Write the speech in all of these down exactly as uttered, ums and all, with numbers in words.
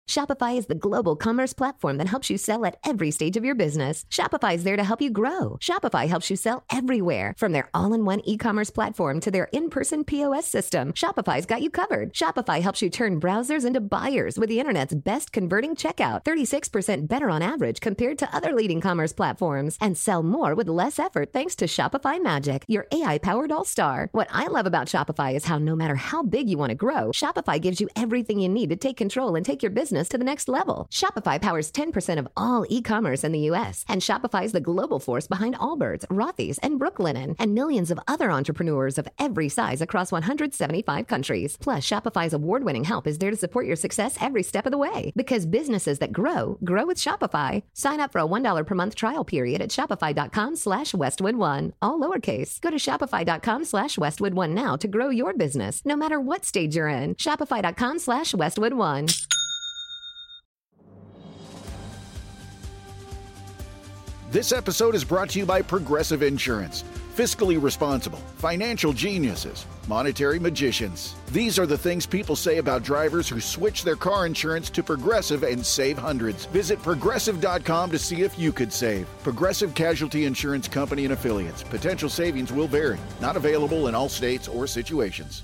Shopify is the global commerce platform that helps you sell at every stage of your business. Shopify is there to help you grow. Shopify helps you sell everywhere, from their all-in-one e-commerce platform to their in-person P O S system. Shopify's got you covered. Shopify helps you turn browsers into buyers with the internet's best converting checkout, thirty-six percent better on average compared to other leading commerce platforms, and sell more with less effort thanks to Shopify Magic, your A I-powered all-star. What I love about Shopify is how no matter how big you want to grow, Shopify gives you everything you need to take control and take your business to the next level. Shopify powers ten percent of all e-commerce in the U S, and Shopify is the global force behind Allbirds, Rothy's, and Brooklinen, and millions of other entrepreneurs of every size across one hundred seventy-five countries. Plus, Shopify's award-winning help is there to support your success every step of the way. Because businesses that grow, grow with Shopify. Sign up for a one dollar per month trial period at shopify.com slash Westwood One. All lowercase. Go to shopify.com slash Westwood One now to grow your business, no matter what stage you're in. Shopify.com slash Westwood One. This episode is brought to you by Progressive Insurance. Fiscally responsible, financial geniuses, monetary magicians. These are the things people say about drivers who switch their car insurance to Progressive and save hundreds. Visit progressive dot com to see if you could save. Progressive Casualty Insurance Company and Affiliates. Potential savings will vary. Not available in all states or situations.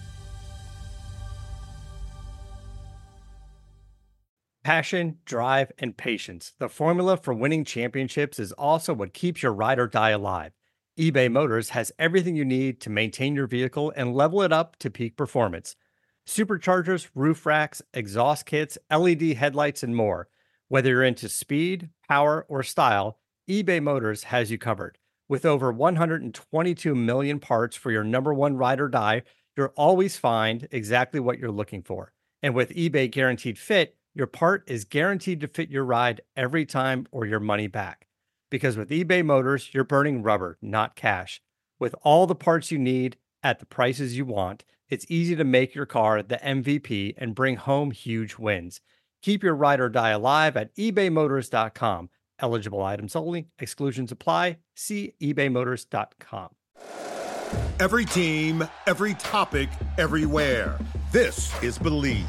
Passion, drive, and patience. The formula for winning championships is also what keeps your ride or die alive. eBay Motors has everything you need to maintain your vehicle and level it up to peak performance. Superchargers, roof racks, exhaust kits, L E D headlights, and more. Whether you're into speed, power, or style, eBay Motors has you covered. With over one hundred twenty-two million parts for your number one ride or die, you'll always find exactly what you're looking for. And with eBay Guaranteed Fit, your part is guaranteed to fit your ride every time or your money back. Because with eBay Motors, you're burning rubber, not cash. With all the parts you need at the prices you want, it's easy to make your car the M V P and bring home huge wins. Keep your ride or die alive at ebay motors dot com. Eligible items only. Exclusions apply. See ebay motors dot com. Every team, every topic, everywhere. This is Believe.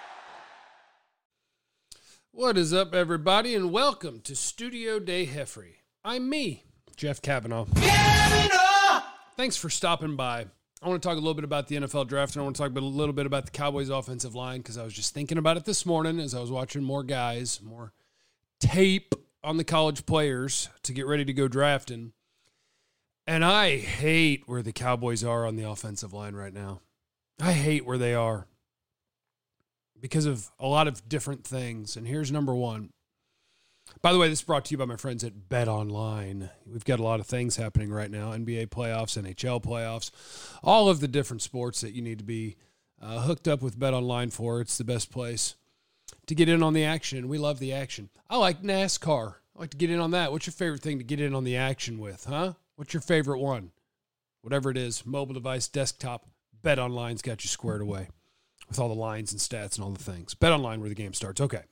What is up, everybody, and welcome to Studio Day Heffrey. I'm me, Jeff Kavanaugh. Kavanaugh! Thanks for stopping by. I want to talk a little bit about the N F L draft, and I want to talk a little bit about the Cowboys offensive line, because I was just thinking about it this morning as I was watching more guys, more tape on the college players to get ready to go drafting. And I hate where the Cowboys are on the offensive line right now. I hate where they are, because of a lot of different things. And here's number one. By the way, this is brought to you by my friends at BetOnline. We've got a lot of things happening right now. N B A playoffs, N H L playoffs, all of the different sports that you need to be uh, hooked up with BetOnline for. It's the best place to get in on the action. We love the action. I like NASCAR. I like to get in on that. What's your favorite thing to get in on the action with, huh? What's your favorite one? Whatever it is, mobile device, desktop, BetOnline's got you squared away with all the lines and stats and all the things. BetOnline, where the game starts. Okay.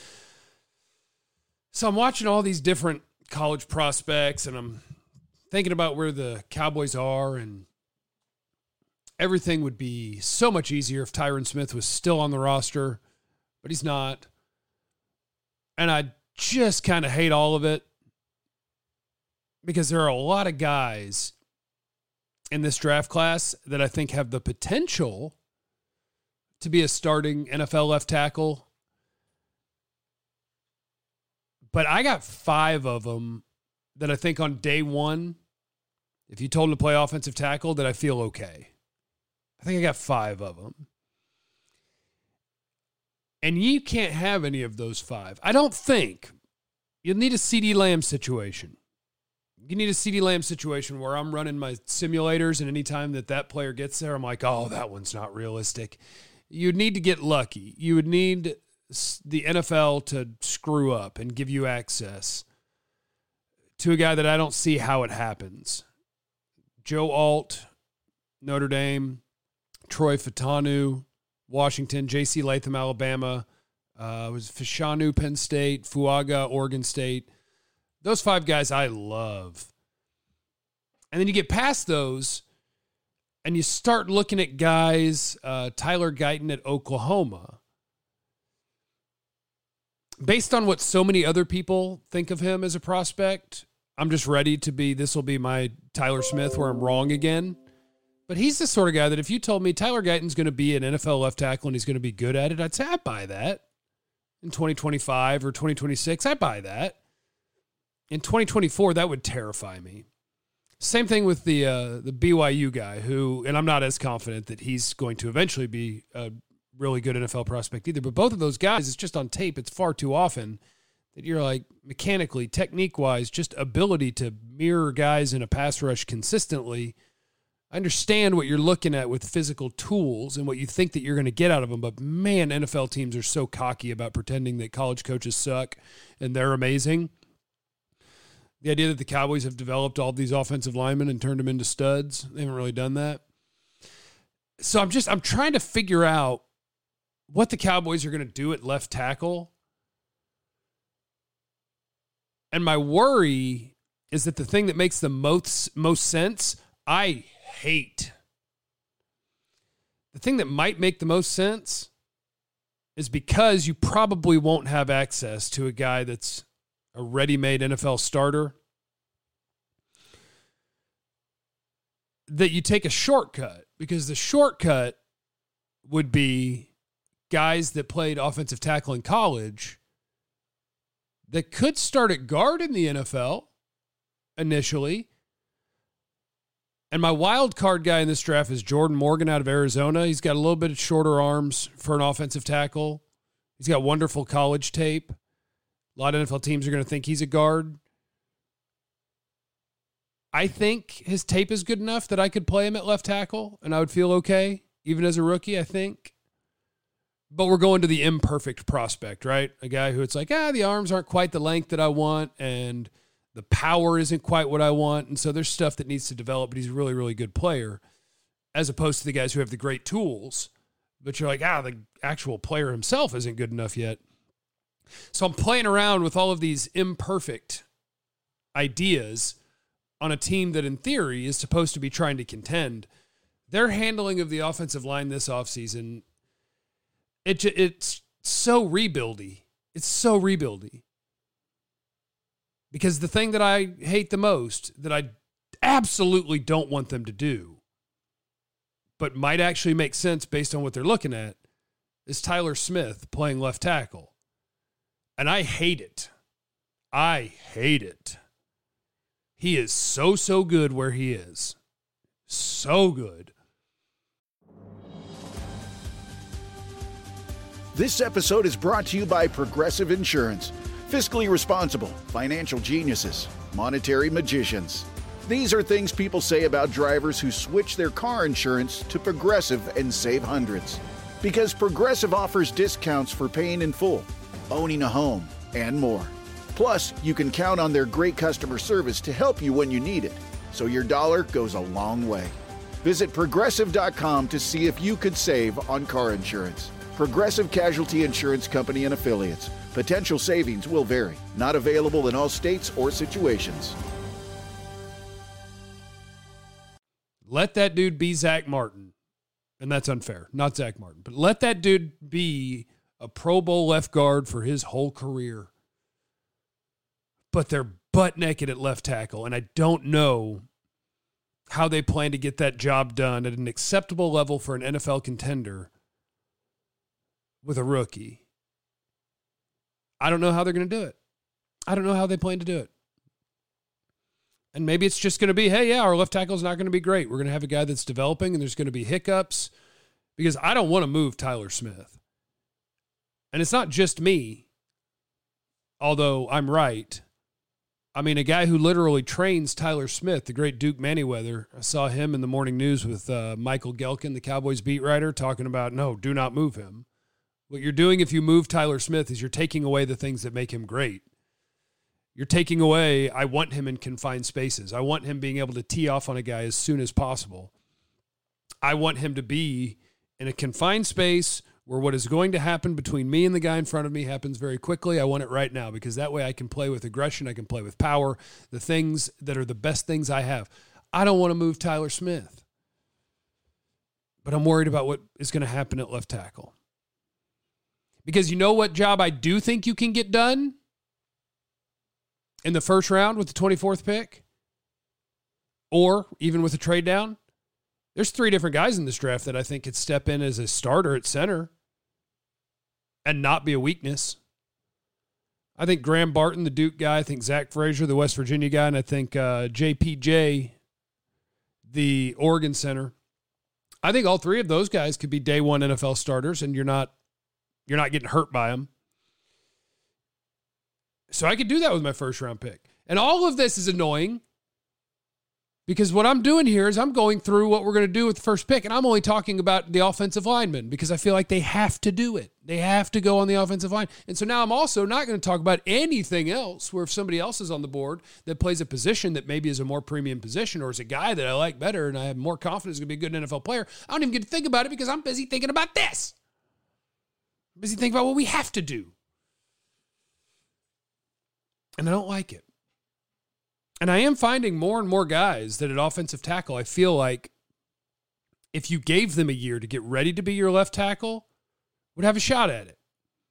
So I'm watching all these different college prospects, and I'm thinking about where the Cowboys are, and everything would be so much easier if Tyron Smith was still on the roster, but he's not. And I just kind of hate all of it, because there are a lot of guys in this draft class that I think have the potential to be a starting N F L left tackle. But I got five of them that I think on day one, if you told them to play offensive tackle, that I feel okay. I think I got five of them. And you can't have any of those five. I don't think. You'll need a CeeDee Lamb situation. You need a CeeDee Lamb situation where I'm running my simulators, and anytime that that player gets there, I'm like, oh, that one's not realistic. You'd need to get lucky. You would need the N F L to screw up and give you access to a guy that I don't see how it happens. Joe Alt, Notre Dame, Troy Fatanu, Washington, J C Latham, Alabama, uh, was Fashanu, Penn State, Fuaga, Oregon State. Those five guys I love. And then you get past those, and you start looking at guys, uh, Tyler Guyton at Oklahoma. based on what so many other people think of him as a prospect, I'm just ready to be, this will be my Tyler Smith where I'm wrong again. But he's the sort of guy that if you told me Tyler Guyton's going to be an N F L left tackle and he's going to be good at it, I'd say I buy that. In twenty twenty-five or twenty twenty-six, I buy that. In twenty twenty-four, that would terrify me. Same thing with the uh, the B Y U guy who, and I'm not as confident that he's going to eventually be a really good N F L prospect either, but both of those guys, it's just on tape, it's far too often that you're like mechanically, technique-wise, just ability to mirror guys in a pass rush consistently. I understand what you're looking at with physical tools and what you think that you're going to get out of them, but man, N F L teams are so cocky about pretending that college coaches suck and they're amazing. The idea that the Cowboys have developed all these offensive linemen and turned them into studs, they haven't really done that. So I'm just, I'm trying to figure out what the Cowboys are going to do at left tackle. And my worry is that the thing that makes the most, most sense, I hate. The thing that might make the most sense is because you probably won't have access to a guy that's a ready-made N F L starter, that you take a shortcut, because the shortcut would be guys that played offensive tackle in college that could start at guard in the N F L initially. And my wild card guy in this draft is Jordan Morgan out of Arizona. He's got a little bit of shorter arms for an offensive tackle. He's got wonderful college tape. A lot of N F L teams are going to think he's a guard. I think his tape is good enough that I could play him at left tackle and I would feel okay, even as a rookie, I think. But we're going to the imperfect prospect, right? A guy who it's like, ah, the arms aren't quite the length that I want and the power isn't quite what I want. And so there's stuff that needs to develop, but he's a really, really good player, as opposed to the guys who have the great tools. But you're like, ah, the actual player himself isn't good enough yet. So I'm playing around with all of these imperfect ideas on a team that in theory is supposed to be trying to contend. Their handling of the offensive line this offseason, it, it's so rebuildy. It's so rebuildy. Because the thing that I hate the most, that I absolutely don't want them to do, but might actually make sense based on what they're looking at, is Tyler Smith playing left tackle. And I hate it. I hate it. He is so, so good where he is. So good. This episode is brought to you by Progressive Insurance. Fiscally responsible, financial geniuses, monetary magicians. These are things people say about drivers who switch their car insurance to Progressive and save hundreds. Because Progressive offers discounts for paying in full, owning a home, and more. Plus, you can count on their great customer service to help you when you need it, so your dollar goes a long way. Visit Progressive dot com to see if you could save on car insurance. Progressive Casualty Insurance Company and Affiliates. Potential savings will vary. Not available in all states or situations. Let that dude be Zach Martin. And that's unfair. Not Zach Martin. But let that dude be a Pro Bowl left guard for his whole career. But they're butt naked at left tackle. And I don't know how they plan to get that job done at an acceptable level for an N F L contender with a rookie. I don't know how they're going to do it. I don't know how they plan to do it. And maybe it's just going to be, hey, yeah, our left tackle is not going to be great. We're going to have a guy that's developing and there's going to be hiccups, because I don't want to move Tyler Smith. And it's not just me, although I'm right. I mean, a guy who literally trains Tyler Smith, the great Duke Manyweather. I saw him in the morning news with uh, Michael Gelkin, the Cowboys beat writer, talking about, no, do not move him. What you're doing if you move Tyler Smith is you're taking away the things that make him great. You're taking away, I want him in confined spaces. I want him being able to tee off on a guy as soon as possible. I want him to be in a confined space where what is going to happen between me and the guy in front of me happens very quickly. I want it right now, because that way I can play with aggression. I can play with power, the things that are the best things I have. I don't want to move Tyler Smith, but I'm worried about what is going to happen at left tackle. Because you know what job I do think you can get done in the first round with the twenty-fourth pick? Or even with a trade down? There's three different guys in this draft that I think could step in as a starter at center and not be a weakness. I think Graham Barton, the Duke guy. I think Zach Frazier, the West Virginia guy. And I think uh, J P J, the Oregon center. I think all three of those guys could be day one N F L starters, and you're not you're not getting hurt by them. So I could do that with my first round pick. And all of this is annoying because what I'm doing here is I'm going through what we're going to do with the first pick, and I'm only talking about the offensive linemen because I feel like they have to do it. They have to go on the offensive line. And so now I'm also not going to talk about anything else where if somebody else is on the board that plays a position that maybe is a more premium position or is a guy that I like better and I have more confidence is going to be a good N F L player, I don't even get to think about it because I'm busy thinking about this. I'm busy thinking about what we have to do. And I don't like it. And I am finding more and more guys that at offensive tackle, I feel like if you gave them a year to get ready to be your left tackle, would have a shot at it.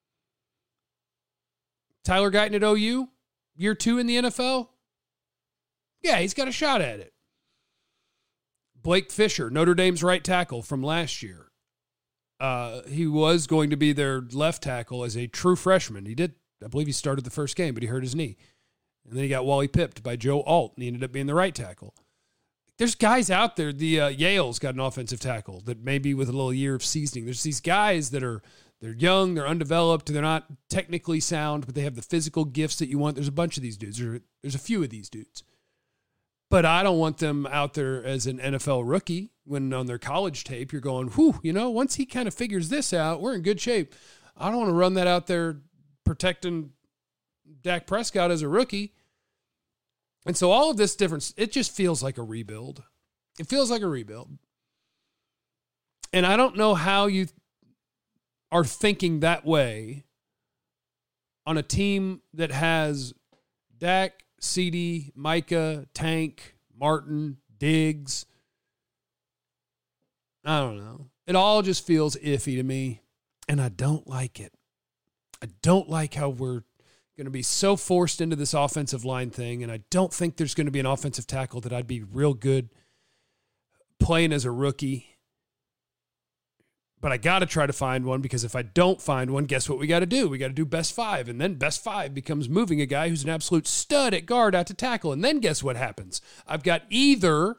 Tyler Guyton at O U, year two in the N F L? Yeah, he's got a shot at it. Blake Fisher, Notre Dame's right tackle from last year. Uh, he was going to be their left tackle as a true freshman. He did, I believe he started the first game, but he hurt his knee. And then he got Wally pipped by Joe Alt, and he ended up being the right tackle. There's guys out there. The uh, Yale's got an offensive tackle that maybe with a little year of seasoning. There's these guys that are they're young, they're undeveloped, they're not technically sound, but they have the physical gifts that you want. There's a bunch of these dudes. There, there's a few of these dudes. But I don't want them out there as an N F L rookie when on their college tape you're going, whew, you know, once he kind of figures this out, we're in good shape. I don't want to run that out there protecting Dak Prescott as a rookie. And so all of this difference, it just feels like a rebuild. It feels like a rebuild. And I don't know how you are thinking that way on a team that has Dak, CeeDee, Micah, Tank, Martin, Diggs. I don't know. It all just feels iffy to me, and I don't like it. I don't like how we're going to be so forced into this offensive line thing, and I don't think there's going to be an offensive tackle that I'd be real good playing as a rookie. But I got to try to find one, because if I don't find one, guess what we got to do? We got to do best five, and then best five becomes moving a guy who's an absolute stud at guard out to tackle, and then guess what happens? I've got either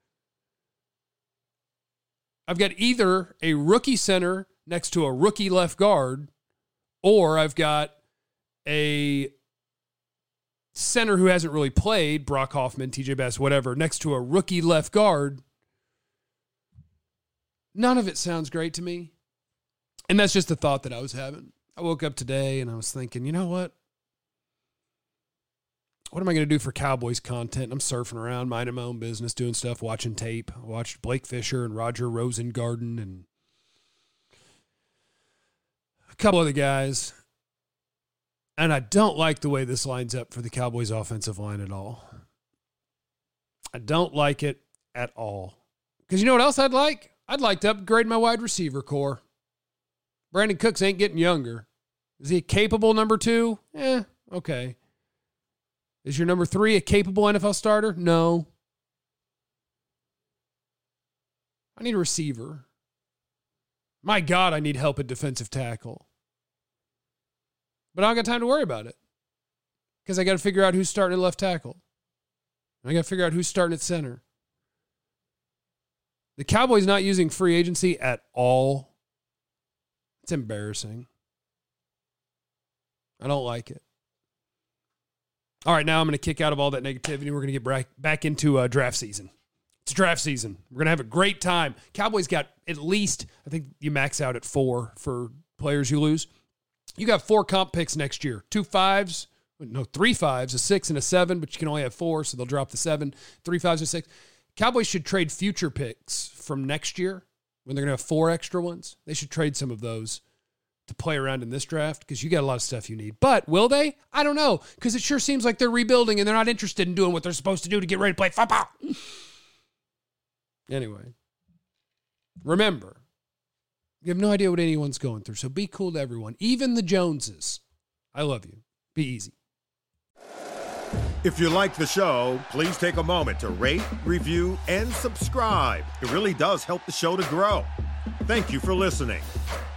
I've got either a rookie center next to a rookie left guard, or I've got a center who hasn't really played, Brock Hoffman, T J Bass, whatever, next to a rookie left guard. None of it sounds great to me. And that's just the thought that I was having. I woke up today and I was thinking, you know what? What am I going to do for Cowboys content? I'm surfing around, minding my own business, doing stuff, watching tape. I watched Blake Fisher and Roger Rosengarten and a couple other guys. And I don't like the way this lines up for the Cowboys offensive line at all. I don't like it at all. Because you know what else I'd like? I'd like to upgrade my wide receiver core. Brandon Cooks ain't getting younger. Is he a capable number two? Eh, okay. Is your number three a capable N F L starter? No. I need a receiver. My God, I need help at defensive tackle. But I don't got time to worry about it, because I got to figure out who's starting at left tackle. I got to figure out who's starting at center. The Cowboys not using free agency at all. It's embarrassing. I don't like it. All right, now I'm going to kick out of all that negativity. We're going to get back into uh, draft season. It's draft season. We're going to have a great time. Cowboys got at least, I think you max out at four for players you lose. You got four comp picks next year. Two fives, no, three fives, a six and a seven, but you can only have four, so they'll drop the seven. Three fives and six. Cowboys should trade future picks from next year when they're going to have four extra ones. They should trade some of those to play around in this draft, because you got a lot of stuff you need. But will they? I don't know, because it sure seems like they're rebuilding and they're not interested in doing what they're supposed to do to get ready to play football. Anyway, remember, You have no idea what anyone's going through. So be cool to everyone, even the Joneses. I love you. Be easy. If you like the show, please take a moment to rate, review, and subscribe. It really does help the show to grow. Thank you for listening.